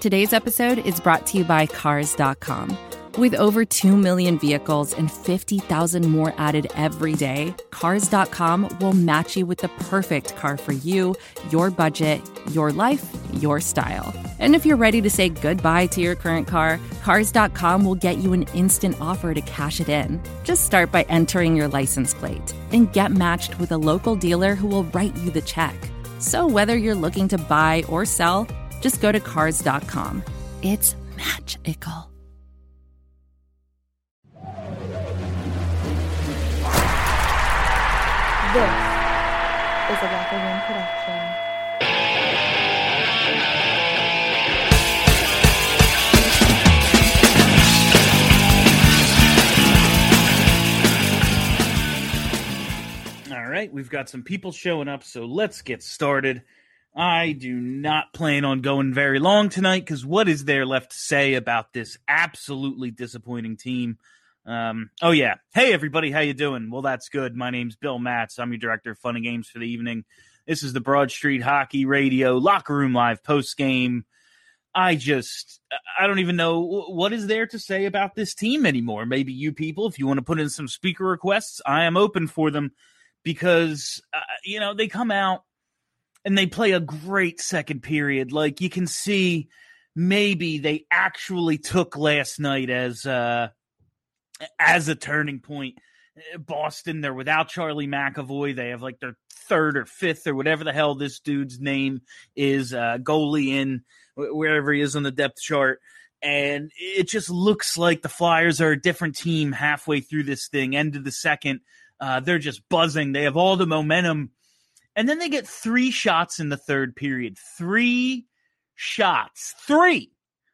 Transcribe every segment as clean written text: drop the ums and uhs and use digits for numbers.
Today's episode is brought to you by Cars.com. With over 2 million vehicles and 50,000 more added every day, Cars.com will match you with the perfect car for you, your budget, your life, your style. And if you're ready to say goodbye to your current car, Cars.com will get you an instant offer to cash it in. Just start by entering your license plate and get matched with a local dealer who will write you the check. So whether you're looking to buy or sell, just go to Cars.com. It's magical. This is a Locker Room production. All right, we've got some people showing up, so let's get started. I do not plan on going very long tonight because what is there left to say about this absolutely disappointing team? Oh yeah. Hey everybody, how you doing? Well, that's good. My name's Bill Matz. I'm your director of fun and games for the evening. This is the Broad Street Hockey Radio Locker Room Live post game. I don't even know what is there to say about this team anymore. Maybe you people, if you want to put in some speaker requests, I am open for them because, they come out and they play a great second period. Like you can see maybe they actually took last night as a turning point. Boston, they're without Charlie McAvoy. They have like their third or fifth or whatever the hell this dude's name is, goalie in wherever he is on the depth chart. And it just looks like the Flyers are a different team halfway through this thing, end of the second. They're just buzzing. They have all the momentum. And then they get 3 shots in the third period. 3 shots. 3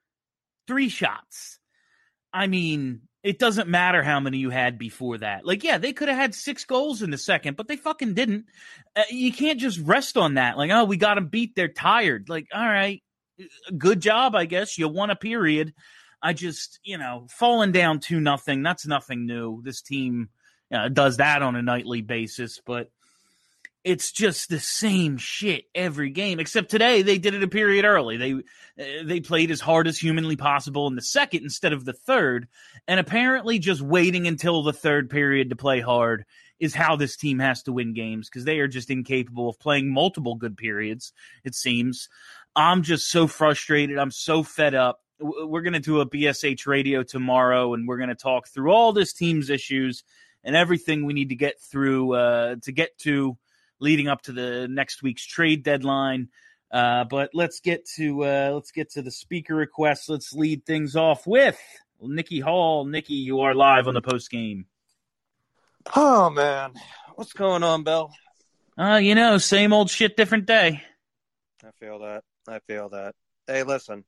shots. I mean, it doesn't matter how many you had before that. Like, yeah, they could have had 6 goals in the second, but they fucking didn't. You can't just rest on that. Like, oh, we got them beat. They're tired. Like, all right, good job, I guess. You won a period. I just, falling down 2-0, that's nothing new. This team does that on a nightly basis, but it's just the same shit every game, except today they did it a period early. They played as hard as humanly possible in the second instead of the third, and apparently just waiting until the third period to play hard is how this team has to win games because they are just incapable of playing multiple good periods, it seems. I'm just so frustrated. I'm so fed up. We're going to do a BSH radio tomorrow, and we're going to talk through all this team's issues and everything we need to get through to get to leading up to the next week's trade deadline. But let's get to the speaker requests. Let's lead things off with Nikki Hall. Nikki, you are live on the post game. Oh man, what's going on, Bill? Same old shit, different day. I feel that. Hey, listen.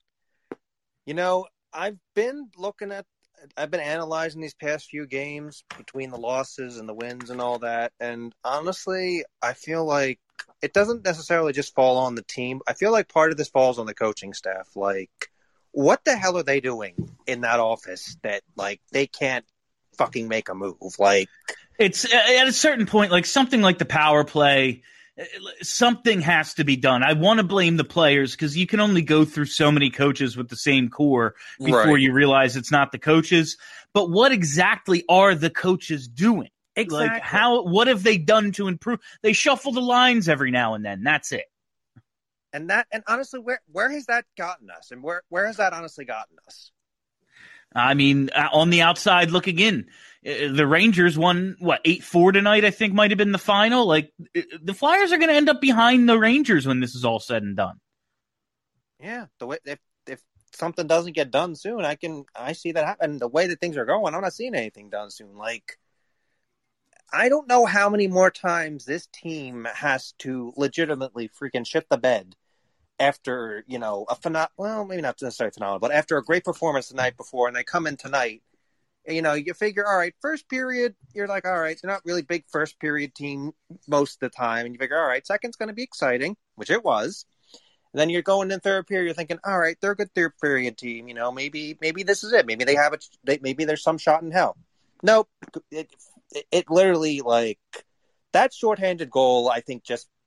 I've been analyzing these past few games between the losses and the wins and all that. And honestly, I feel like it doesn't necessarily just fall on the team. I feel like part of this falls on the coaching staff. Like, what the hell are they doing in that office that, like, they can't fucking make a move? Like, it's at a certain point, like something like the power play, something has to be done. I want to blame the players because you can only go through so many coaches with the same core before you realize it's not the coaches. But what exactly are the coaches doing? Exactly. Like what have they done to improve? They shuffle the lines every now and then. That's it. And honestly, where has that gotten us? And where has that honestly gotten us? I mean, on the outside looking in, the Rangers won, 8-4 tonight, I think might have been the final. Like, the Flyers are going to end up behind the Rangers when this is all said and done. Yeah, the way if something doesn't get done soon, I see that happen. The way that things are going, I'm not seeing anything done soon. Like, I don't know how many more times this team has to legitimately freaking shit the bed after, maybe not necessarily phenomenal, but after a great performance the night before, and they come in tonight, you figure, all right, first period, you're like, all right, they're not really big first period team most of the time, and you figure, all right, second's going to be exciting, which it was. And then you're going in third period, you're thinking, all right, they're a good third period team, maybe this is it. Maybe they have maybe there's some shot in hell. Nope. It literally, like, that shorthanded goal, I think, just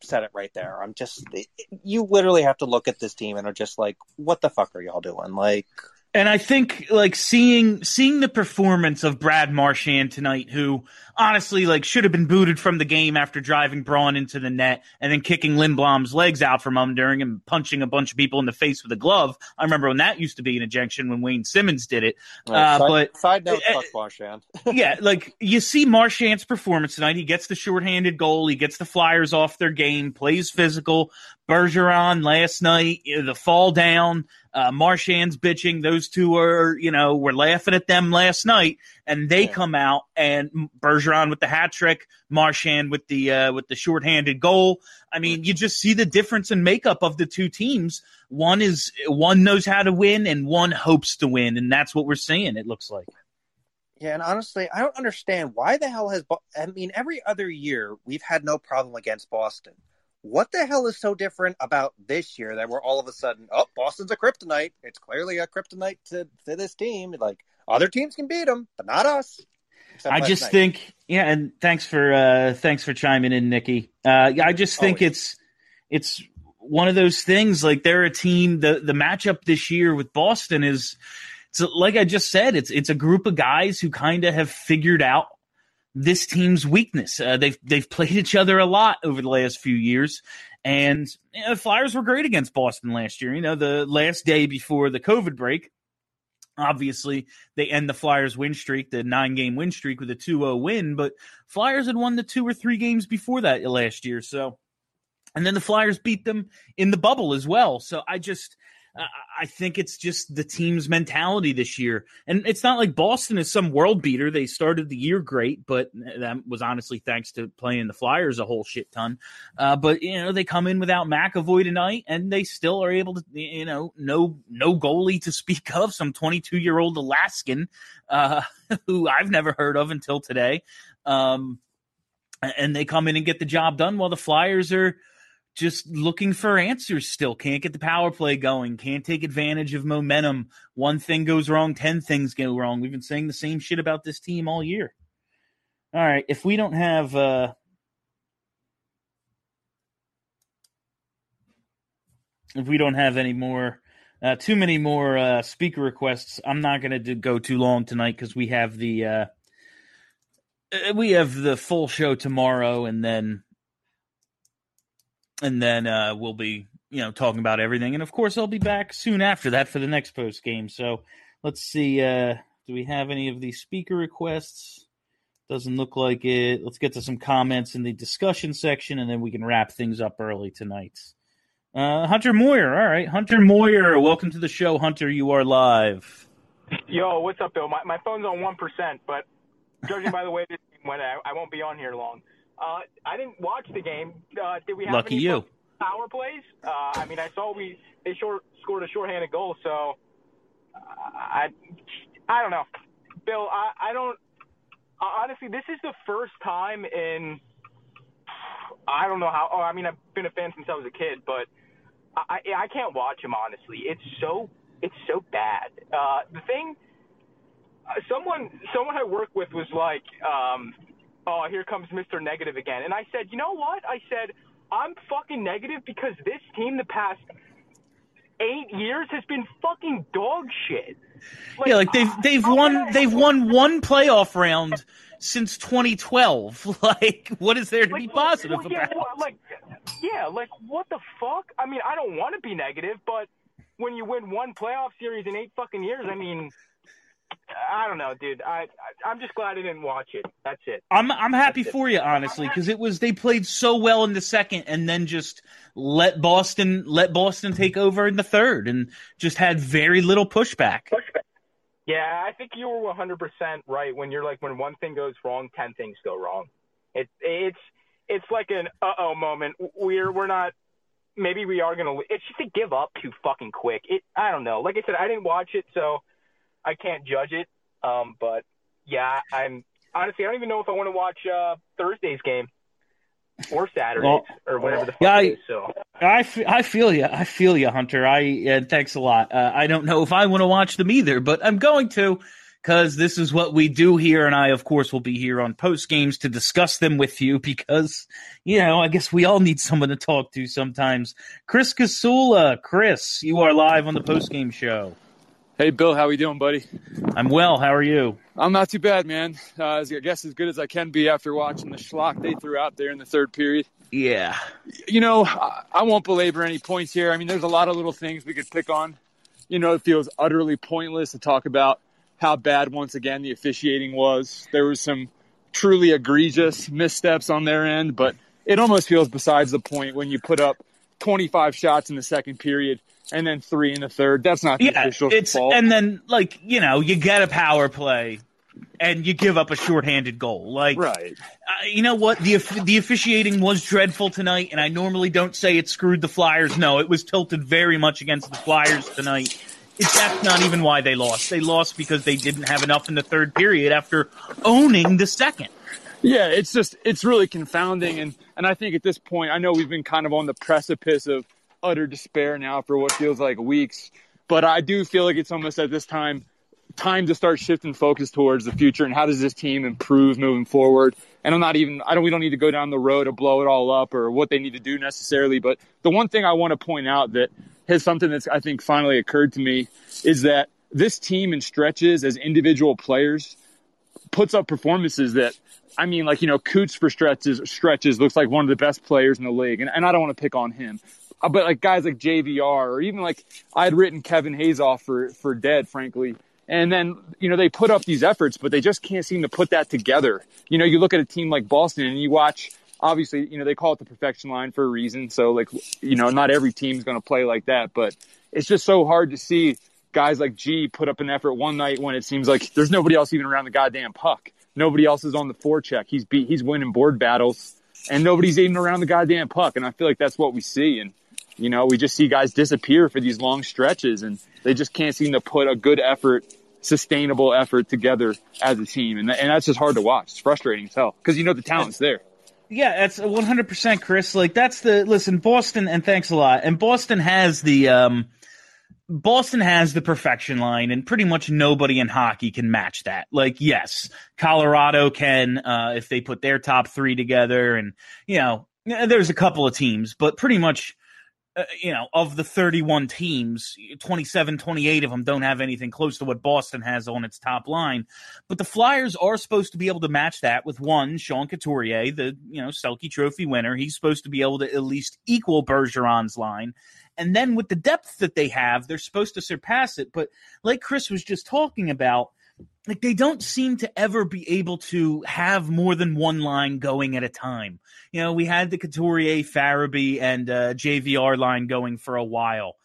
said it right there. You literally have to look at this team and are just like, what the fuck are y'all doing? Like, and I think like seeing the performance of Brad Marchand tonight, who honestly like should have been booted from the game after driving Braun into the net and then kicking Lindblom's legs out from under him and punching a bunch of people in the face with a glove. I remember when that used to be an ejection when Wayne Simmons did it. Side note, fuck Marchand. Yeah, like you see Marchand's performance tonight. He gets the shorthanded goal. He gets the Flyers off their game, plays physical. Bergeron last night, the fall down. Marchand's bitching. Those two are, we're laughing at them last night, and they come out and Bergeron with the hat trick, Marchand with the shorthanded goal. I mean, you just see the difference in makeup of the two teams. One knows how to win, and one hopes to win, and that's what we're seeing. It looks like. Yeah, and honestly, I don't understand why the hell every other year we've had no problem against Boston. What the hell is so different about this year that we're all of a sudden, Boston's a kryptonite. It's clearly a kryptonite to this team. Like, other teams can beat them, but not us. I just think, and thanks for chiming in, Nikki. I just think it's one of those things. Like, they're a team. The matchup this year with Boston is, like I just said, it's a group of guys who kind of have figured out this team's weakness. They've played each other a lot over the last few years, and the Flyers were great against Boston last year. The last day before the COVID break, obviously they end the Flyers win streak, the 9-game win streak, with a 2-0 win, but Flyers had won the 2 or 3 games before that last year. So, and then the Flyers beat them in the bubble as well. So I think it's just the team's mentality this year. And it's not like Boston is some world beater. They started the year great, but that was honestly thanks to playing the Flyers a whole shit ton. But they come in without McAvoy tonight, and they still are able to, no goalie to speak of, some 22-year-old Alaskan who I've never heard of until today. And they come in and get the job done while the Flyers are just looking for answers still. Can't get the power play going. Can't take advantage of momentum. One thing goes wrong, 10 things go wrong. We've been saying the same shit about this team all year. All right, if we don't have any more, too many more speaker requests, I'm not going to go too long tonight because we have the full show tomorrow, and then we'll be, talking about everything. And, of course, I'll be back soon after that for the next post game. So let's see. Do we have any of these speaker requests? Doesn't look like it. Let's get to some comments in the discussion section, and then we can wrap things up early tonight. Hunter Moyer. All right. Hunter Moyer. Welcome to the show, Hunter. You are live. Yo, what's up, Bill? My phone's on 1%, but judging by the way this game went, I won't be on here long. I didn't watch the game. Did we have Lucky any you. Power plays? I saw they scored a shorthanded goal, so I don't know. Bill, I don't – honestly, this is the first time in – I don't know how – I've been a fan since I was a kid, but I can't watch him, honestly. It's so bad. The thing – someone I work with was like oh, here comes Mr. Negative again. And I said, you know what? I said, I'm fucking negative because this team the past 8 years has been fucking dog shit. They've won one playoff round since 2012. What is there to be positive about? What the fuck? I don't want to be negative, but when you win one playoff series in 8 fucking years, I don't know, dude. I'm just glad I didn't watch it. That's it. I'm happy for you, honestly, because they played so well in the second, and then just let Boston take over in the third, and just had very little pushback. Yeah, I think you were 100% right when you're like, when one thing goes wrong, 10 things go wrong. It's like an moment. We're not. Maybe we are gonna. It's just to give up too fucking quick. I don't know. Like I said, I didn't watch it, so I can't judge it, but yeah, I'm honestly, I don't even know if I want to watch Thursday's game or Saturday's or whatever the fuck it is. So I feel you, Hunter. And thanks a lot. I don't know if I want to watch them either, but I'm going to, because this is what we do here, and I, of course, will be here on post games to discuss them with you because, I guess we all need someone to talk to sometimes. Chris Casula. Chris, you are live on the post game show. Hey, Bill, how we doing, buddy? I'm well. How are you? I'm not too bad, man. I guess as good as I can be after watching the schlock they threw out there in the third period. Yeah. I won't belabor any points here. I mean, there's a lot of little things we could pick on. It feels utterly pointless to talk about how bad, once again, the officiating was. There was some truly egregious missteps on their end, but it almost feels besides the point when you put up 25 shots in the second period and then 3 in the third. That's not the official's fault. And then, you get a power play and you give up a shorthanded goal. Right. You know what? The officiating was dreadful tonight, and I normally don't say it screwed the Flyers. No, it was tilted very much against the Flyers tonight. That's not even why they lost. They lost because they didn't have enough in the third period after owning the second. Yeah, it's really confounding. And I think at this point, I know we've been kind of on the precipice of utter despair now for what feels like weeks. But I do feel like it's almost at this time to start shifting focus towards the future and how does this team improve moving forward. And we don't need to go down the road to blow it all up or what they need to do necessarily. But the one thing I want to point out that has something that's, I think, finally occurred to me is that this team in stretches as individual players puts up performances that, Coots for stretches looks like one of the best players in the league. And I don't want to pick on him. But guys like JVR or even I had written Kevin Hayes off for dead, frankly. And then, they put up these efforts, but they just can't seem to put that together. You look at a team like Boston and you watch, obviously, they call it the perfection line for a reason. So, not every team is going to play like that. But it's just so hard to see guys like G put up an effort one night when it seems like there's nobody else even around the goddamn puck. Nobody else is on the forecheck. He's winning board battles, and nobody's even around the goddamn puck. And I feel like that's what we see. And, we just see guys disappear for these long stretches, and they just can't seem to put a good effort, sustainable effort together as a team. And that's just hard to watch. It's frustrating as hell because the talent's there. Yeah, that's 100%, Chris. Listen, Boston, and thanks a lot. And Boston has the perfection line, and pretty much nobody in hockey can match that. Yes, Colorado can if they put their top 3 together, and there's a couple of teams, but pretty much. Of the 31 teams, 27, 28 of them don't have anything close to what Boston has on its top line. But the Flyers are supposed to be able to match that with Sean Couturier, the Selke Trophy winner. He's supposed to be able to at least equal Bergeron's line. And then with the depth that they have, they're supposed to surpass it. But like Chris was just talking about, they don't seem to ever be able to have more than one line going at a time. We had the Couturier, Farabee, and JVR line going for a while.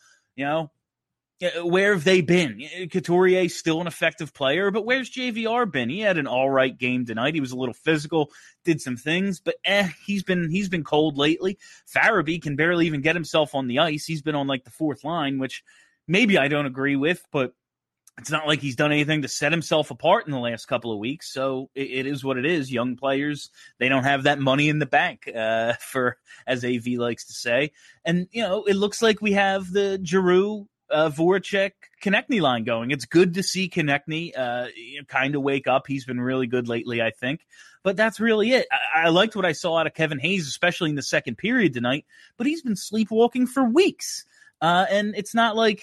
Where have they been? Couturier's still an effective player, but where's JVR been? He had an all right game tonight. He was a little physical, did some things, but he's been cold lately. Farabee can barely even get himself on the ice. He's been on the fourth line, which maybe I don't agree with, but it's not like he's done anything to set himself apart in the last couple of weeks. So it is what it is. Young players, they don't have that money in the bank, for, as AV likes to say. And, it looks like we have the Giroux, Voracek, Konechny line going. It's good to see Konechny kind of wake up. He's been really good lately, I think. But that's really it. I liked what I saw out of Kevin Hayes, especially in the second period tonight. But he's been sleepwalking for weeks. And it's not like,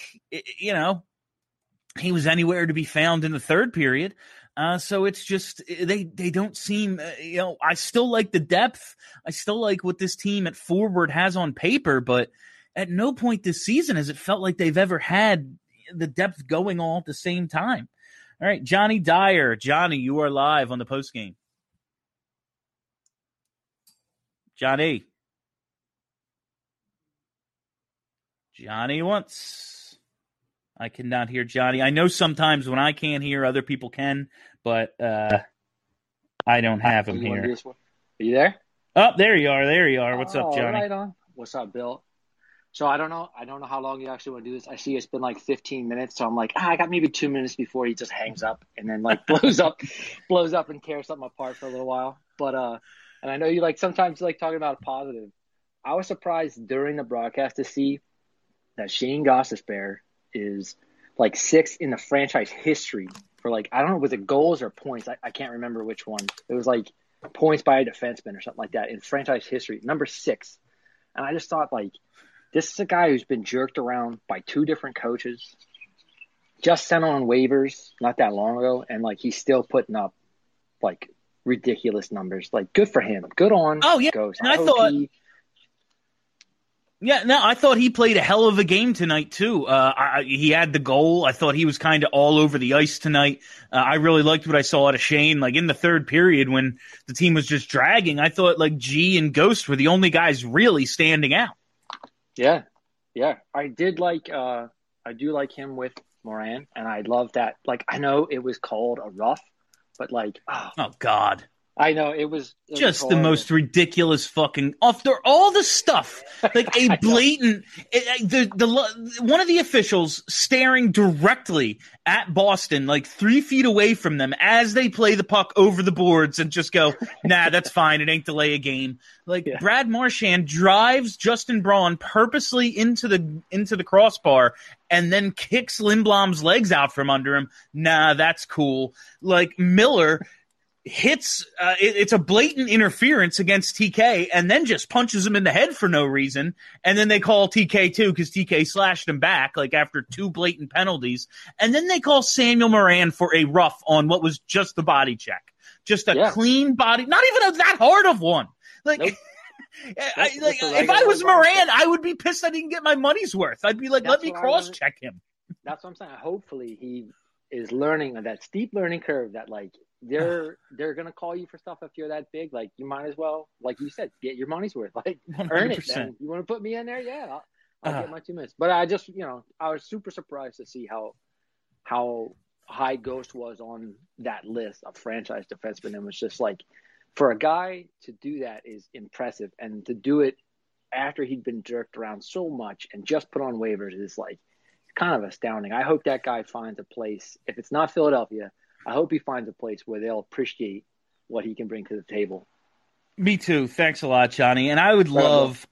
he was anywhere to be found in the third period. So it's just they don't seem, I still like the depth. I still like what this team at forward has on paper, but at no point this season has it felt like they've ever had the depth going all at the same time. All right, Johnny Dyer. Johnny, you are live on the postgame. Johnny once. I cannot hear Johnny. I know sometimes when I can't hear, other people can, but I don't have him here. Are you there? Oh, there you are. What's up, Johnny? Right on. What's up, Bill? So I don't know how long you actually want to do this. I see it's been 15 minutes, so I'm I got maybe 2 minutes before he just hangs up and then blows up and tears something apart for a little while. But and I know you sometimes talking about a positive. I was surprised during the broadcast to see that Shane Gostisbehere is 6th in the franchise history for like, I don't know, was it goals or points? I can't remember which one. It was like points by a defenseman or something like that in franchise history, number 6. And I just thought, like, this is a guy who's been jerked around by 2 different coaches, just sent on waivers not that long ago, and like he's still putting up like ridiculous numbers. Like, good for him. Good on Ghost. And I thought he played a hell of a game tonight too. He had the goal. I thought he was kind of all over the ice tonight. I really liked what I saw out of Shane. Like in the third period when the team was just dragging, I thought like G and Ghost were the only guys really standing out. Yeah. I do like him with Moran, and I love that. Like, I know it was called a rough, but like, oh God. I know it was just the most ridiculous fucking after all the stuff, like a blatant one of the officials staring directly at Boston, like 3 feet away from them as they play the puck over the boards and just go, nah, that's fine. It ain't delay a game. Like Brad Marchand drives Justin Braun purposely into the crossbar and then kicks Lindblom's legs out from under him. Nah, that's cool. Like Miller hits it's a blatant interference against TK and then just punches him in the head for no reason, and then they call TK too because TK slashed him back like after 2 blatant penalties, and then they call Samuel Moran for a rough on what was just the body check, just a clean body, not even that hard of one. Like, nope. If I was Moran, I would be pissed I didn't get my money's worth. I'd be like, let me cross check him. That's what I'm saying. Hopefully he is learning of that steep learning curve that like they're gonna call you for stuff if you're that big. Like, you might as well, like you said, get your money's worth. Like 100%. Earn it. Then. You want to put me in there? Yeah, I'll get my 2 minutes. But I just, I was super surprised to see how high Ghost was on that list of franchise defensemen. And was just like, for a guy to do that is impressive, and to do it after he'd been jerked around so much and just put on waivers is like kind of astounding. I hope that guy finds a place. If it's not Philadelphia, I hope he finds a place where they'll appreciate what he can bring to the table. Me too. Thanks a lot, Johnny. And I would love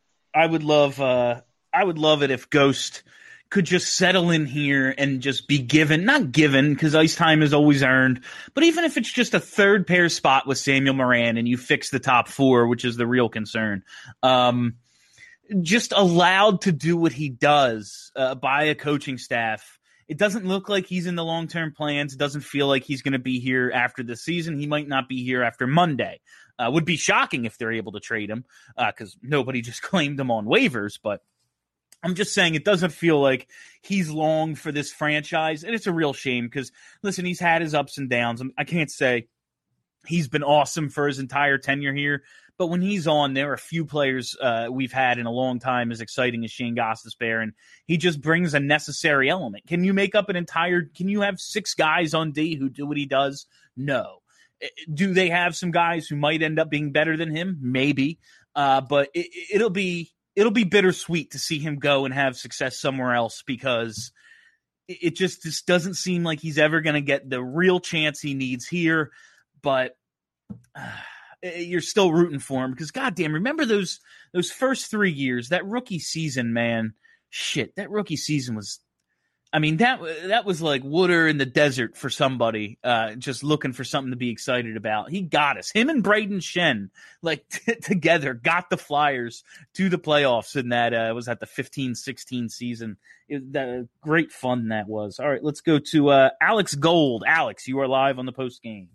it if Ghost could just settle in here and just be not given because ice time is always earned, but even if it's just a third pair spot with Samuel Moran and you fix the top 4, which is the real concern, just allowed to do what he does by a coaching staff. It doesn't look like he's in the long-term plans. It doesn't feel like he's going to be here after the season. He might not be here after Monday. Would be shocking if they're able to trade him because nobody just claimed him on waivers. But I'm just saying it doesn't feel like he's long for this franchise. And it's a real shame because, listen, he's had his ups and downs. I can't say he's been awesome for his entire tenure here. But when he's on, there are a few players we've had in a long time as exciting as Shane Gostisbehere, and he just brings a necessary element. Can you have 6 guys on D who do what he does? No. Do they have some guys who might end up being better than him? Maybe. But it'll be bittersweet to see him go and have success somewhere else because it just doesn't seem like he's ever going to get the real chance he needs here. But you're still rooting for him because, goddamn, remember those first 3 years, that rookie season, man. Shit, that rookie season was, I mean, that was like water in the desert for somebody just looking for something to be excited about. He got us. Him and Braden Shen, like together, got the Flyers to the playoffs in that was that the 15-16 season. Great fun that was. All right, let's go to Alex Gold. Alex, you are live on the post game.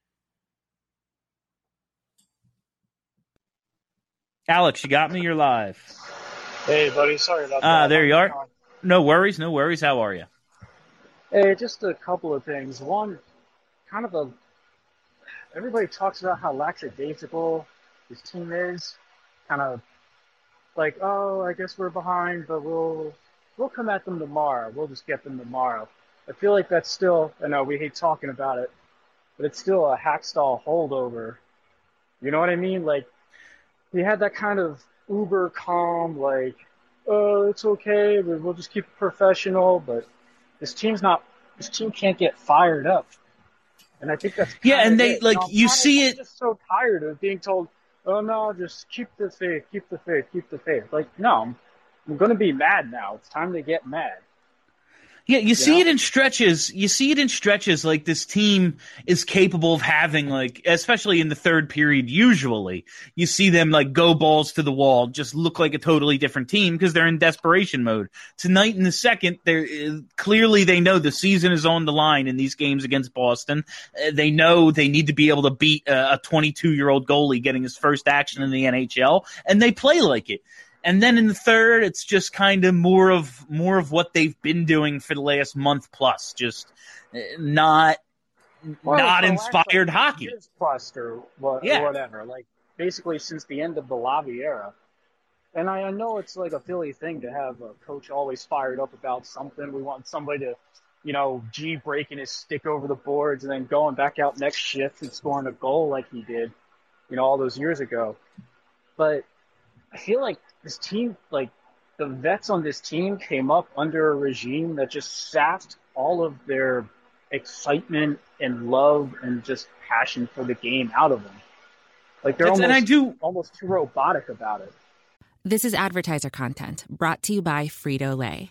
Alex, you got me? You're live. Hey, buddy. Sorry about that. There you are. No worries. How are you? Hey, just a couple of things. One, everybody talks about how lackadaisical this team is. Kind of like, oh, I guess we're behind, but we'll come at them tomorrow. We'll just get them tomorrow. I feel like that's still, I know we hate talking about it, but it's still a Hackstall holdover. You know what I mean? Like, he had that kind of uber calm, like, oh, it's okay, we'll just keep it professional, but this team can't get fired up. And I think that's and they it. You see it. I'm just so tired of being told, oh no, just keep the faith. Like, no, I'm going to be mad now. It's time to get mad. Yeah, you see it in stretches. You see it in stretches like this team is capable of having, like, especially in the third period, usually, you see them, like, go balls to the wall, just look like a totally different team because they're in desperation mode. Tonight in the second, clearly they know the season is on the line in these games against Boston. They know they need to be able to beat a 22-year-old goalie getting his first action in the NHL, and they play like it. And then in the third, it's just kind of more of what they've been doing for the last month plus, just not inspired hockey. Plus or whatever, like basically since the end of the Lavi era. And I know it's like a Philly thing to have a coach always fired up about something. We want somebody to, breaking his stick over the boards and then going back out next shift and scoring a goal like he did, all those years ago. But I feel like this team, like the vets on this team came up under a regime that just sapped all of their excitement and love and just passion for the game out of them. Like they're almost too robotic about it. This is advertiser content brought to you by Frito-Lay.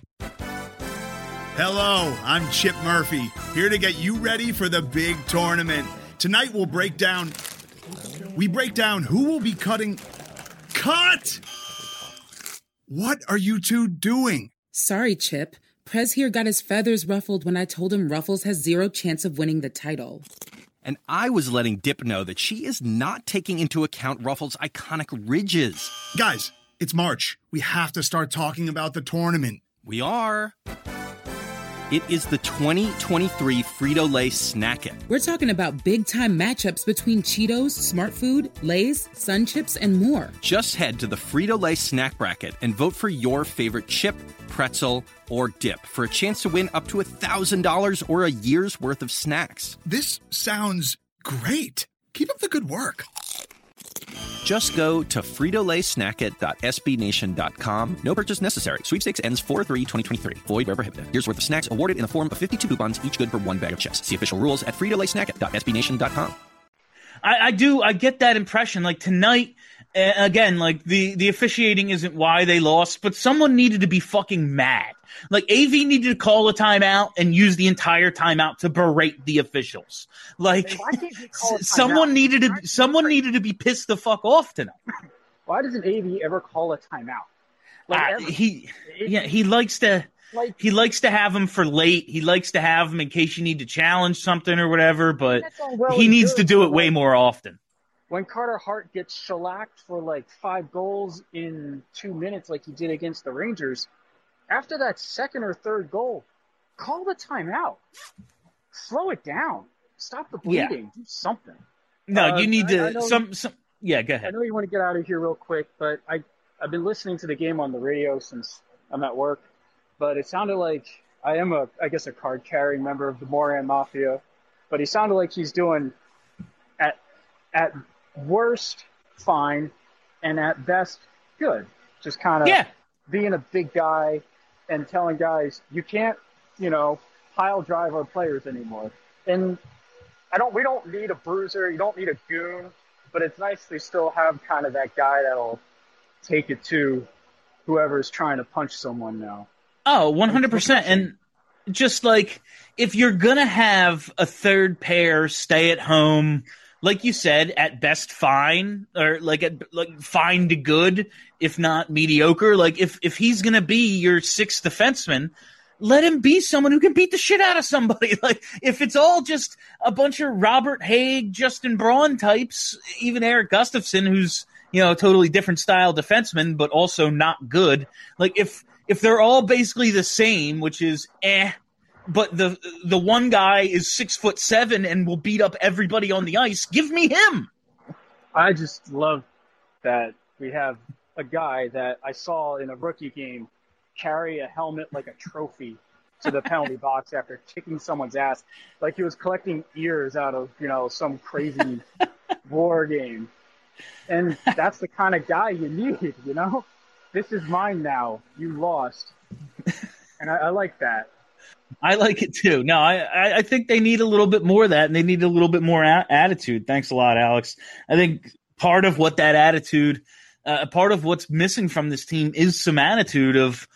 Hello, I'm Chip Murphy, here to get you ready for the big tournament. Tonight we'll break down who will be cutting... Cut! What are you two doing? Sorry, Chip. Prez here got his feathers ruffled when I told him Ruffles has zero chance of winning the title. And I was letting Dip know that she is not taking into account Ruffles' iconic ridges. Guys, it's March. We have to start talking about the tournament. We are. It is the 2023 Frito-Lay Snack It. We're talking about big-time matchups between Cheetos, Smart Food, Lay's, Sun Chips, and more. Just head to the Frito-Lay Snack Bracket and vote for your favorite chip, pretzel, or dip for a chance to win up to $1,000 or a year's worth of snacks. This sounds great. Keep up the good work. Just go to fritolaysnackit.sbnation.com. No purchase necessary. Sweepstakes ends 4/3/2023. Void where prohibited. Here's worth of snacks awarded in the form of 52 coupons, each good for one bag of chips. See official rules at fritolaysnackit.sbnation.com. I get that impression. Like tonight, again, like the officiating isn't why they lost, but someone needed to be fucking mad. Like AV needed to call a timeout and use the entire timeout to berate the officials. Like someone needed to be pissed the fuck off tonight. Why doesn't AV ever call a timeout? Like he likes to. He likes to have them for late. He likes to have them in case you need to challenge something or whatever, but he needs to do it way more often. When Carter Hart gets shellacked for like 5 goals in 2 minutes like he did against the Rangers, after that second or third goal, call the timeout. Slow it down. Stop the bleeding. Do something. No, you need to... Yeah, go ahead. I know you want to get out of here real quick, but I've been listening to the game on the radio since I'm at work. But it sounded like I am a card-carrying member of the Moran Mafia. But he sounded like he's doing, at worst, fine, and at best, good. Just kind of being a big guy and telling guys, you can't, pile drive our players anymore. And we don't need a bruiser. You don't need a goon. But it's nice they still have kind of that guy that'll take it to whoever's trying to punch someone now. Oh, 100%. And just like, if you're going to have a third pair stay at home, like you said, at best fine, or fine to good, if not mediocre, like if he's going to be your sixth defenseman, let him be someone who can beat the shit out of somebody. Like, if it's all just a bunch of Robert Haig, Justin Braun types, even Eric Gustafson, who's, a totally different style defenseman, but also not good. Like, if they're all basically the same, which is but the one guy is 6'7" and will beat up everybody on the ice, give me him. I just love that we have a guy that I saw in a rookie game carry a helmet like a trophy to the penalty box after kicking someone's ass, like he was collecting ears out of some crazy war game. And that's the kind of guy you need, This is mine now. You lost. And I like that. I like it too. No, I think they need a little bit more of that, and they need a little bit more attitude. Thanks a lot, Alex. I think part of what that attitude, part of what's missing from this team is some attitude of,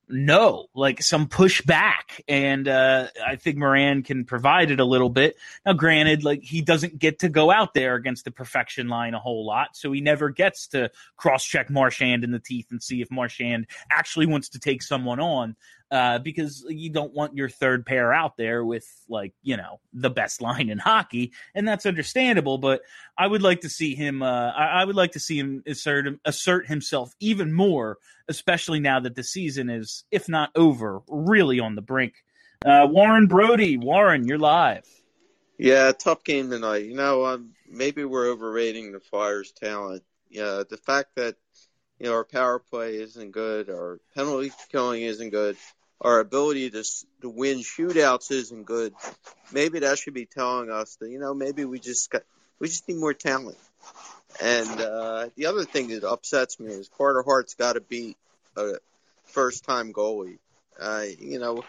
no, like some pushback. And I think Moran can provide it a little bit. Now, granted, like he doesn't get to go out there against the perfection line a whole lot, so he never gets to cross-check Marchand in the teeth and see if Marchand actually wants to take someone on. Because you don't want your third pair out there with, like, you know, the best line in hockey, and that's understandable. But I would like to see him. I would like to see him assert himself even more, especially now that the season is, if not over, really on the brink. Warren Brody, Warren, you're live. Yeah, tough game tonight. You know, maybe we're overrating the Flyers' talent. Yeah, the fact that, you know, our power play isn't good, our penalty killing isn't good, our ability to win shootouts isn't good. Maybe that should be telling us that, you know, maybe we just need more talent. And the other thing that upsets me is Carter Hart's got to beat a first-time goalie. You know,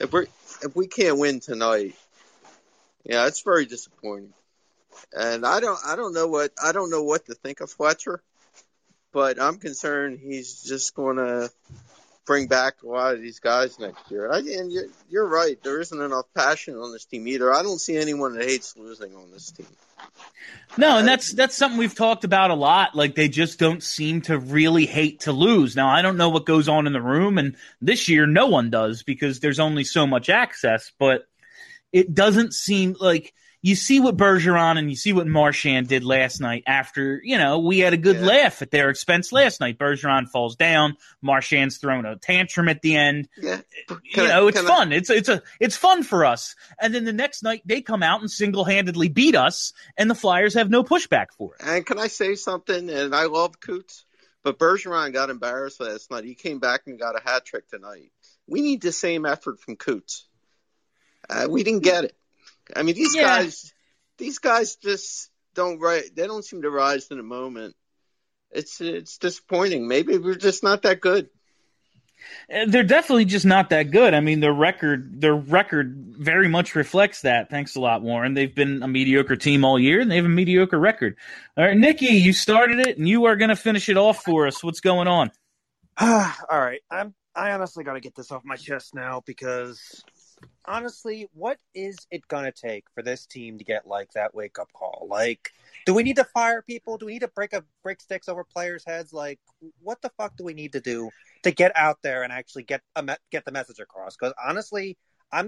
if we can't win tonight, yeah, it's very disappointing. And I don't know what to think of Fletcher. But I'm concerned he's just going to bring back a lot of these guys next year. And you're right. There isn't enough passion on this team either. I don't see anyone that hates losing on this team. No, and that's something we've talked about a lot. Like, they just don't seem to really hate to lose. Now, I don't know what goes on in the room, and this year no one does because there's only so much access. But it doesn't seem like – you see what Bergeron and you see what Marchand did last night after, you know, we had a good laugh at their expense last night. Bergeron falls down. Marchand's thrown a tantrum at the end. Yeah. It's fun. It's fun for us. And then the next night they come out and single-handedly beat us, and the Flyers have no pushback for it. And can I say something? And I love Coots, but Bergeron got embarrassed last night. He came back and got a hat trick tonight. We need the same effort from Coots. We didn't get it. I mean, these guys just don't they don't seem to rise to the moment. It's disappointing. Maybe we're just not that good. They're definitely just not that good. I mean, their record very much reflects that. Thanks a lot, Warren. They've been a mediocre team all year, and they have a mediocre record. All right, Nikki, you started it, and you are going to finish it off for us. What's going on? All right, I honestly got to get this off my chest now because – honestly, what is it going to take for this team to get, like, that wake-up call? Like, do we need to fire people? Do we need to break sticks over players' heads? Like, what the fuck do we need to do to get out there and actually get the message across? Because, honestly,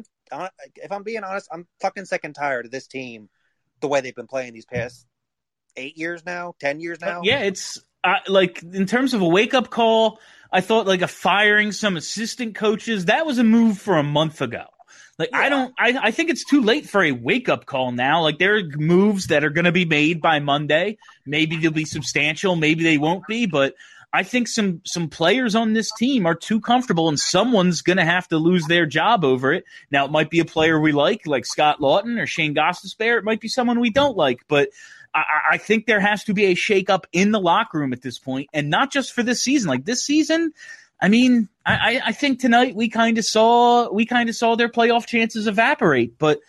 if I'm being honest, I'm fucking sick and tired of this team, the way they've been playing these past 8 years now, 10 years now. Yeah, it's like, in terms of a wake-up call, I thought, like, firing some assistant coaches, that was a move for a month ago. Like, yeah. I think it's too late for a wake-up call now. Like, there are moves that are going to be made by Monday. Maybe they'll be substantial. Maybe they won't be. But I think some players on this team are too comfortable, and someone's going to have to lose their job over it. Now, it might be a player we like Scott Laughton or Shane Gostisbehere. It might be someone we don't like. But I think there has to be a shake-up in the locker room at this point, and not just for this season. Like, this season – I mean, I think tonight we kind of saw their playoff chances evaporate. But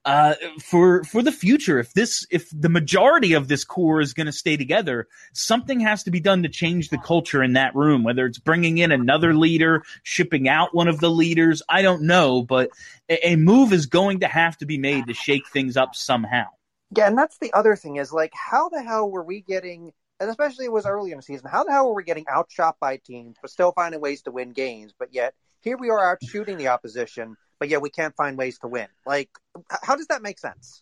for the future, if the majority of this core is going to stay together, something has to be done to change the culture in that room. Whether it's bringing in another leader, shipping out one of the leaders, I don't know, but a move is going to have to be made to shake things up somehow. Yeah, and that's the other thing is, like, how the hell were we getting? And especially it was early in the season. How the hell were we getting outshot by teams, but still finding ways to win games? But yet here we are out shooting the opposition, but yet we can't find ways to win. Like, how does that make sense?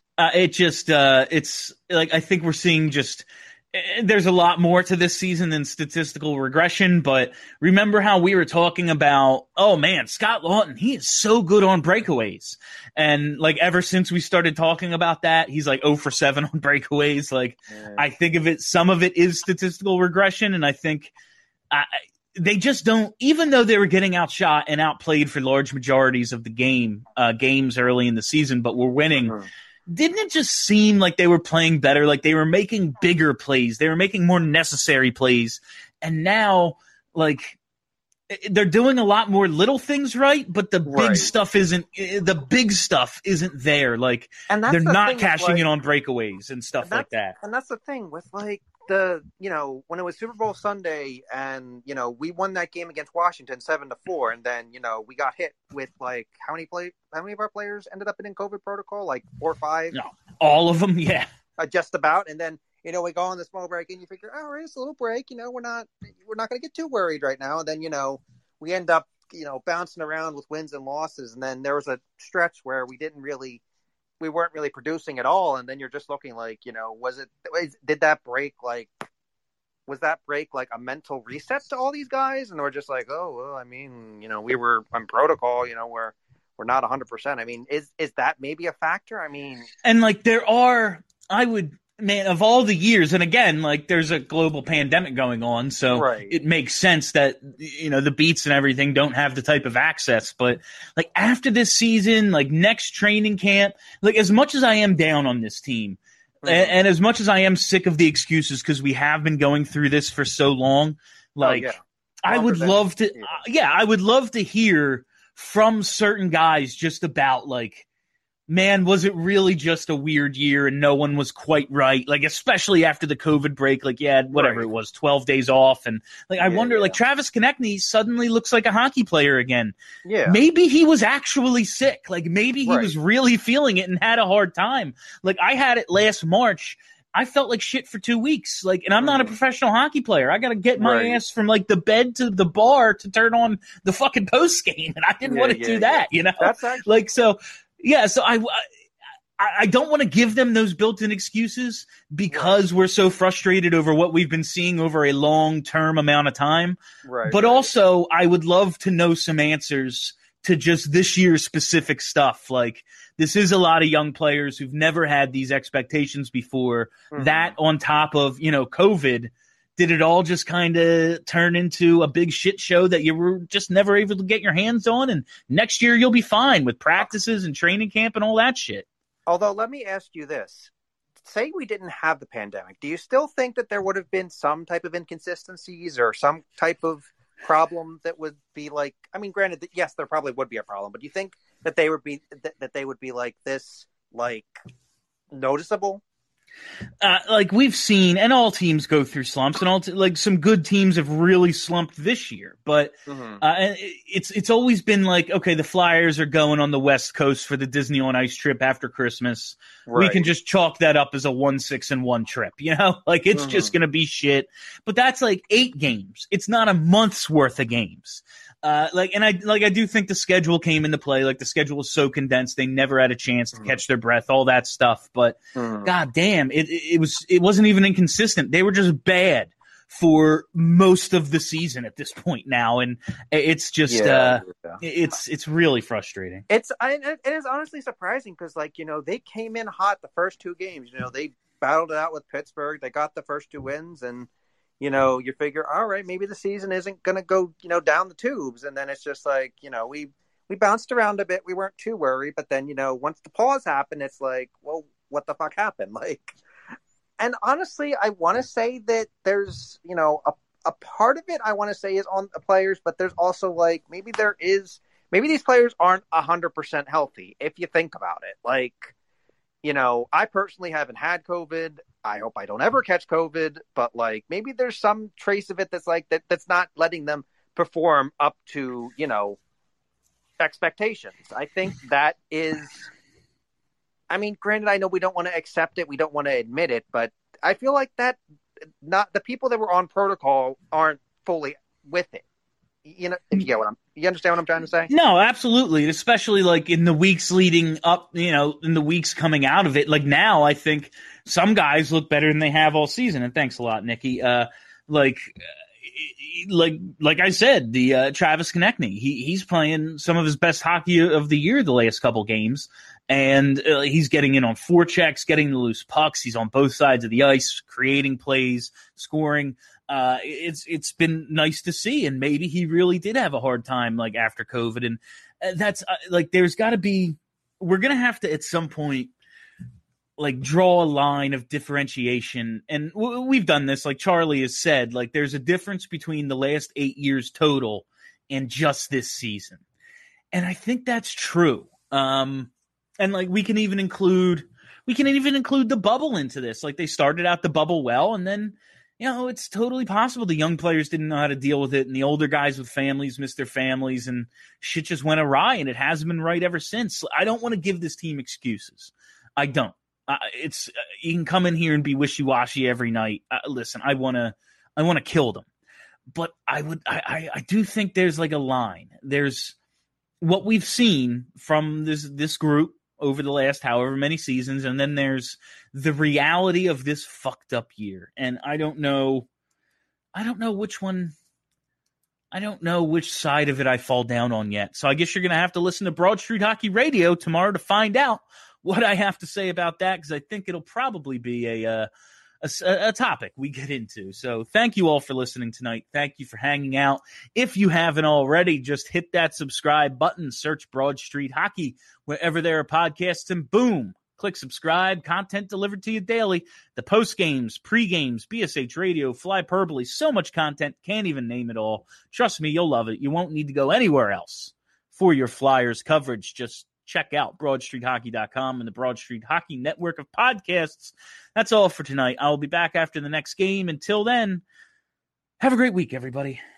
It's like, I think we're seeing just there's a lot more to this season than statistical regression. But remember how we were talking about, oh man, Scott Laughton, he is so good on breakaways. And like, ever since we started talking about that, he's like 0 for 7 on breakaways. Like, I think of it, some of it is statistical regression. And I think they just don't, even though they were getting outshot and outplayed for large majorities of the games early in the season, but were winning. Didn't it just seem like they were playing better? Like, they were making bigger plays. They were making more necessary plays. And now, like, they're doing a lot more little things right, but the big stuff isn't there. Like, they're not cashing in on breakaways and stuff like that. And that's the thing with, like, when it was Super Bowl Sunday and, we won that game against Washington 7-4. And then, we got hit with like, how many of our players ended up in COVID protocol? Like 4 or 5? No, all of them. Yeah. Just about. And then, we go on the small break and you figure, all right, it's a little break. We're not going to get too worried right now. And then, we end up, bouncing around with wins and losses. And then there was a stretch where we weren't really producing at all. And then you're just looking like, was that break like a mental reset to all these guys? And we're just like, oh, well, I mean, we were on protocol, we're not 100%. I mean, is that maybe a factor? I mean, and like of all the years, and again, like there's a global pandemic going on, so right. It makes sense that, the beats and everything don't have the type of access. But like after this season, like next training camp, like as much as I am down on this team, and as much as I am sick of the excuses because we have been going through this for so long, like I would love to hear from certain guys just about like, man, was it really just a weird year and no one was quite right? Like, especially after the COVID break, like, whatever it was, 12 days off. And like, I wonder, like Travis Konechny suddenly looks like a hockey player again. Yeah. Maybe he was actually sick. Like maybe he was really feeling it and had a hard time. Like I had it last March. I felt like shit for 2 weeks. Like, and I'm not a professional hockey player. I got to get my ass from like the bed to the bar to turn on the fucking post game. And I didn't want to do that, That's actually like, so. Yeah, so I don't want to give them those built-in excuses because we're so frustrated over what we've been seeing over a long-term amount of time. Right. But also, I would love to know some answers to just this year's specific stuff. Like, this is a lot of young players who've never had these expectations before. Mm-hmm. That on top of, COVID, did it all just kind of turn into a big shit show that you were just never able to get your hands on? And next year you'll be fine with practices and training camp and all that shit. Although, let me ask you this. Say we didn't have the pandemic. Do you still think that there would have been some type of inconsistencies or some type of problem that would be like, I mean, granted, yes, there probably would be a problem, but do you think that they would be like this, like noticeable? Like we've seen, and all teams go through slumps, and like some good teams have really slumped this year. But it's always been like, okay, the Flyers are going on the West Coast for the Disney on Ice trip after Christmas. Right. We can just chalk that up as a 1-6-1 trip, like it's just gonna be shit. But that's like 8 games. It's not a month's worth of games. I do think the schedule came into play. Like the schedule was so condensed, they never had a chance to catch their breath, all that stuff. But god damn, it wasn't even inconsistent. They were just bad for most of the season at this point now, and it's just it's really frustrating. It is honestly surprising because they came in hot the first 2 games. They battled it out with Pittsburgh. They got the first 2 wins and. You figure, all right, maybe the season isn't going to go, down the tubes. And then it's just like, we bounced around a bit. We weren't too worried. But then, once the pause happened, it's like, well, what the fuck happened? Like, and honestly, I want to say that there's, a part of it I want to say is on the players, but there's also like, maybe these players aren't 100% healthy if you think about it. Like, I personally haven't had COVID. I hope I don't ever catch COVID, but like maybe there's some trace of it that's like that's not letting them perform up to, expectations. I think that is, I mean, granted, I know we don't want to accept it. We don't want to admit it, but I feel like that not the people that were on protocol aren't fully with it. If you get you understand what I'm trying to say? No, absolutely. Especially like in the weeks leading up, in the weeks coming out of it. Like now, I think some guys look better than they have all season. And thanks a lot, Nikki. Like I said, the Travis Konechny, he's playing some of his best hockey of the year the last couple games. And he's getting in on forechecks, getting the loose pucks. He's on both sides of the ice, creating plays, scoring. It's been nice to see, and maybe he really did have a hard time like after COVID, and that's like there's got to be we're gonna have to at some point like draw a line of differentiation, and we've done this. Like Charlie has said, like there's a difference between the last 8 years total and just this season, and I think that's true. And like we can even include We can even include the bubble into this. Like, they started out the bubble well, and then, it's totally possible the young players didn't know how to deal with it, and the older guys with families missed their families, and shit just went awry, and it hasn't been right ever since. I don't want to give this team excuses. I don't. You can come in here and be wishy-washy every night. Listen, I want to kill them. But I do think there's like a line. There's what we've seen from this group over the last however many seasons, and then there's the reality of this fucked up year. And I don't know which one. I don't know which side of it I fall down on yet. So I guess you're going to have to listen to Broad Street Hockey Radio tomorrow to find out what I have to say about that, because I think it'll probably be a topic we get into. So thank you all for listening tonight. Thank you for hanging out. If you haven't already, just hit that subscribe button, search Broad Street Hockey wherever there are podcasts, and boom, click subscribe. Content delivered to you daily. The post games, pre games, BSH Radio, Flyperbole, so much content, can't even name it all. Trust me, you'll love it. You won't need to go anywhere else for your Flyers coverage. Just check out BroadStreetHockey.com and the Broad Street Hockey Network of podcasts. That's all for tonight. I'll be back after the next game. Until then, have a great week, everybody.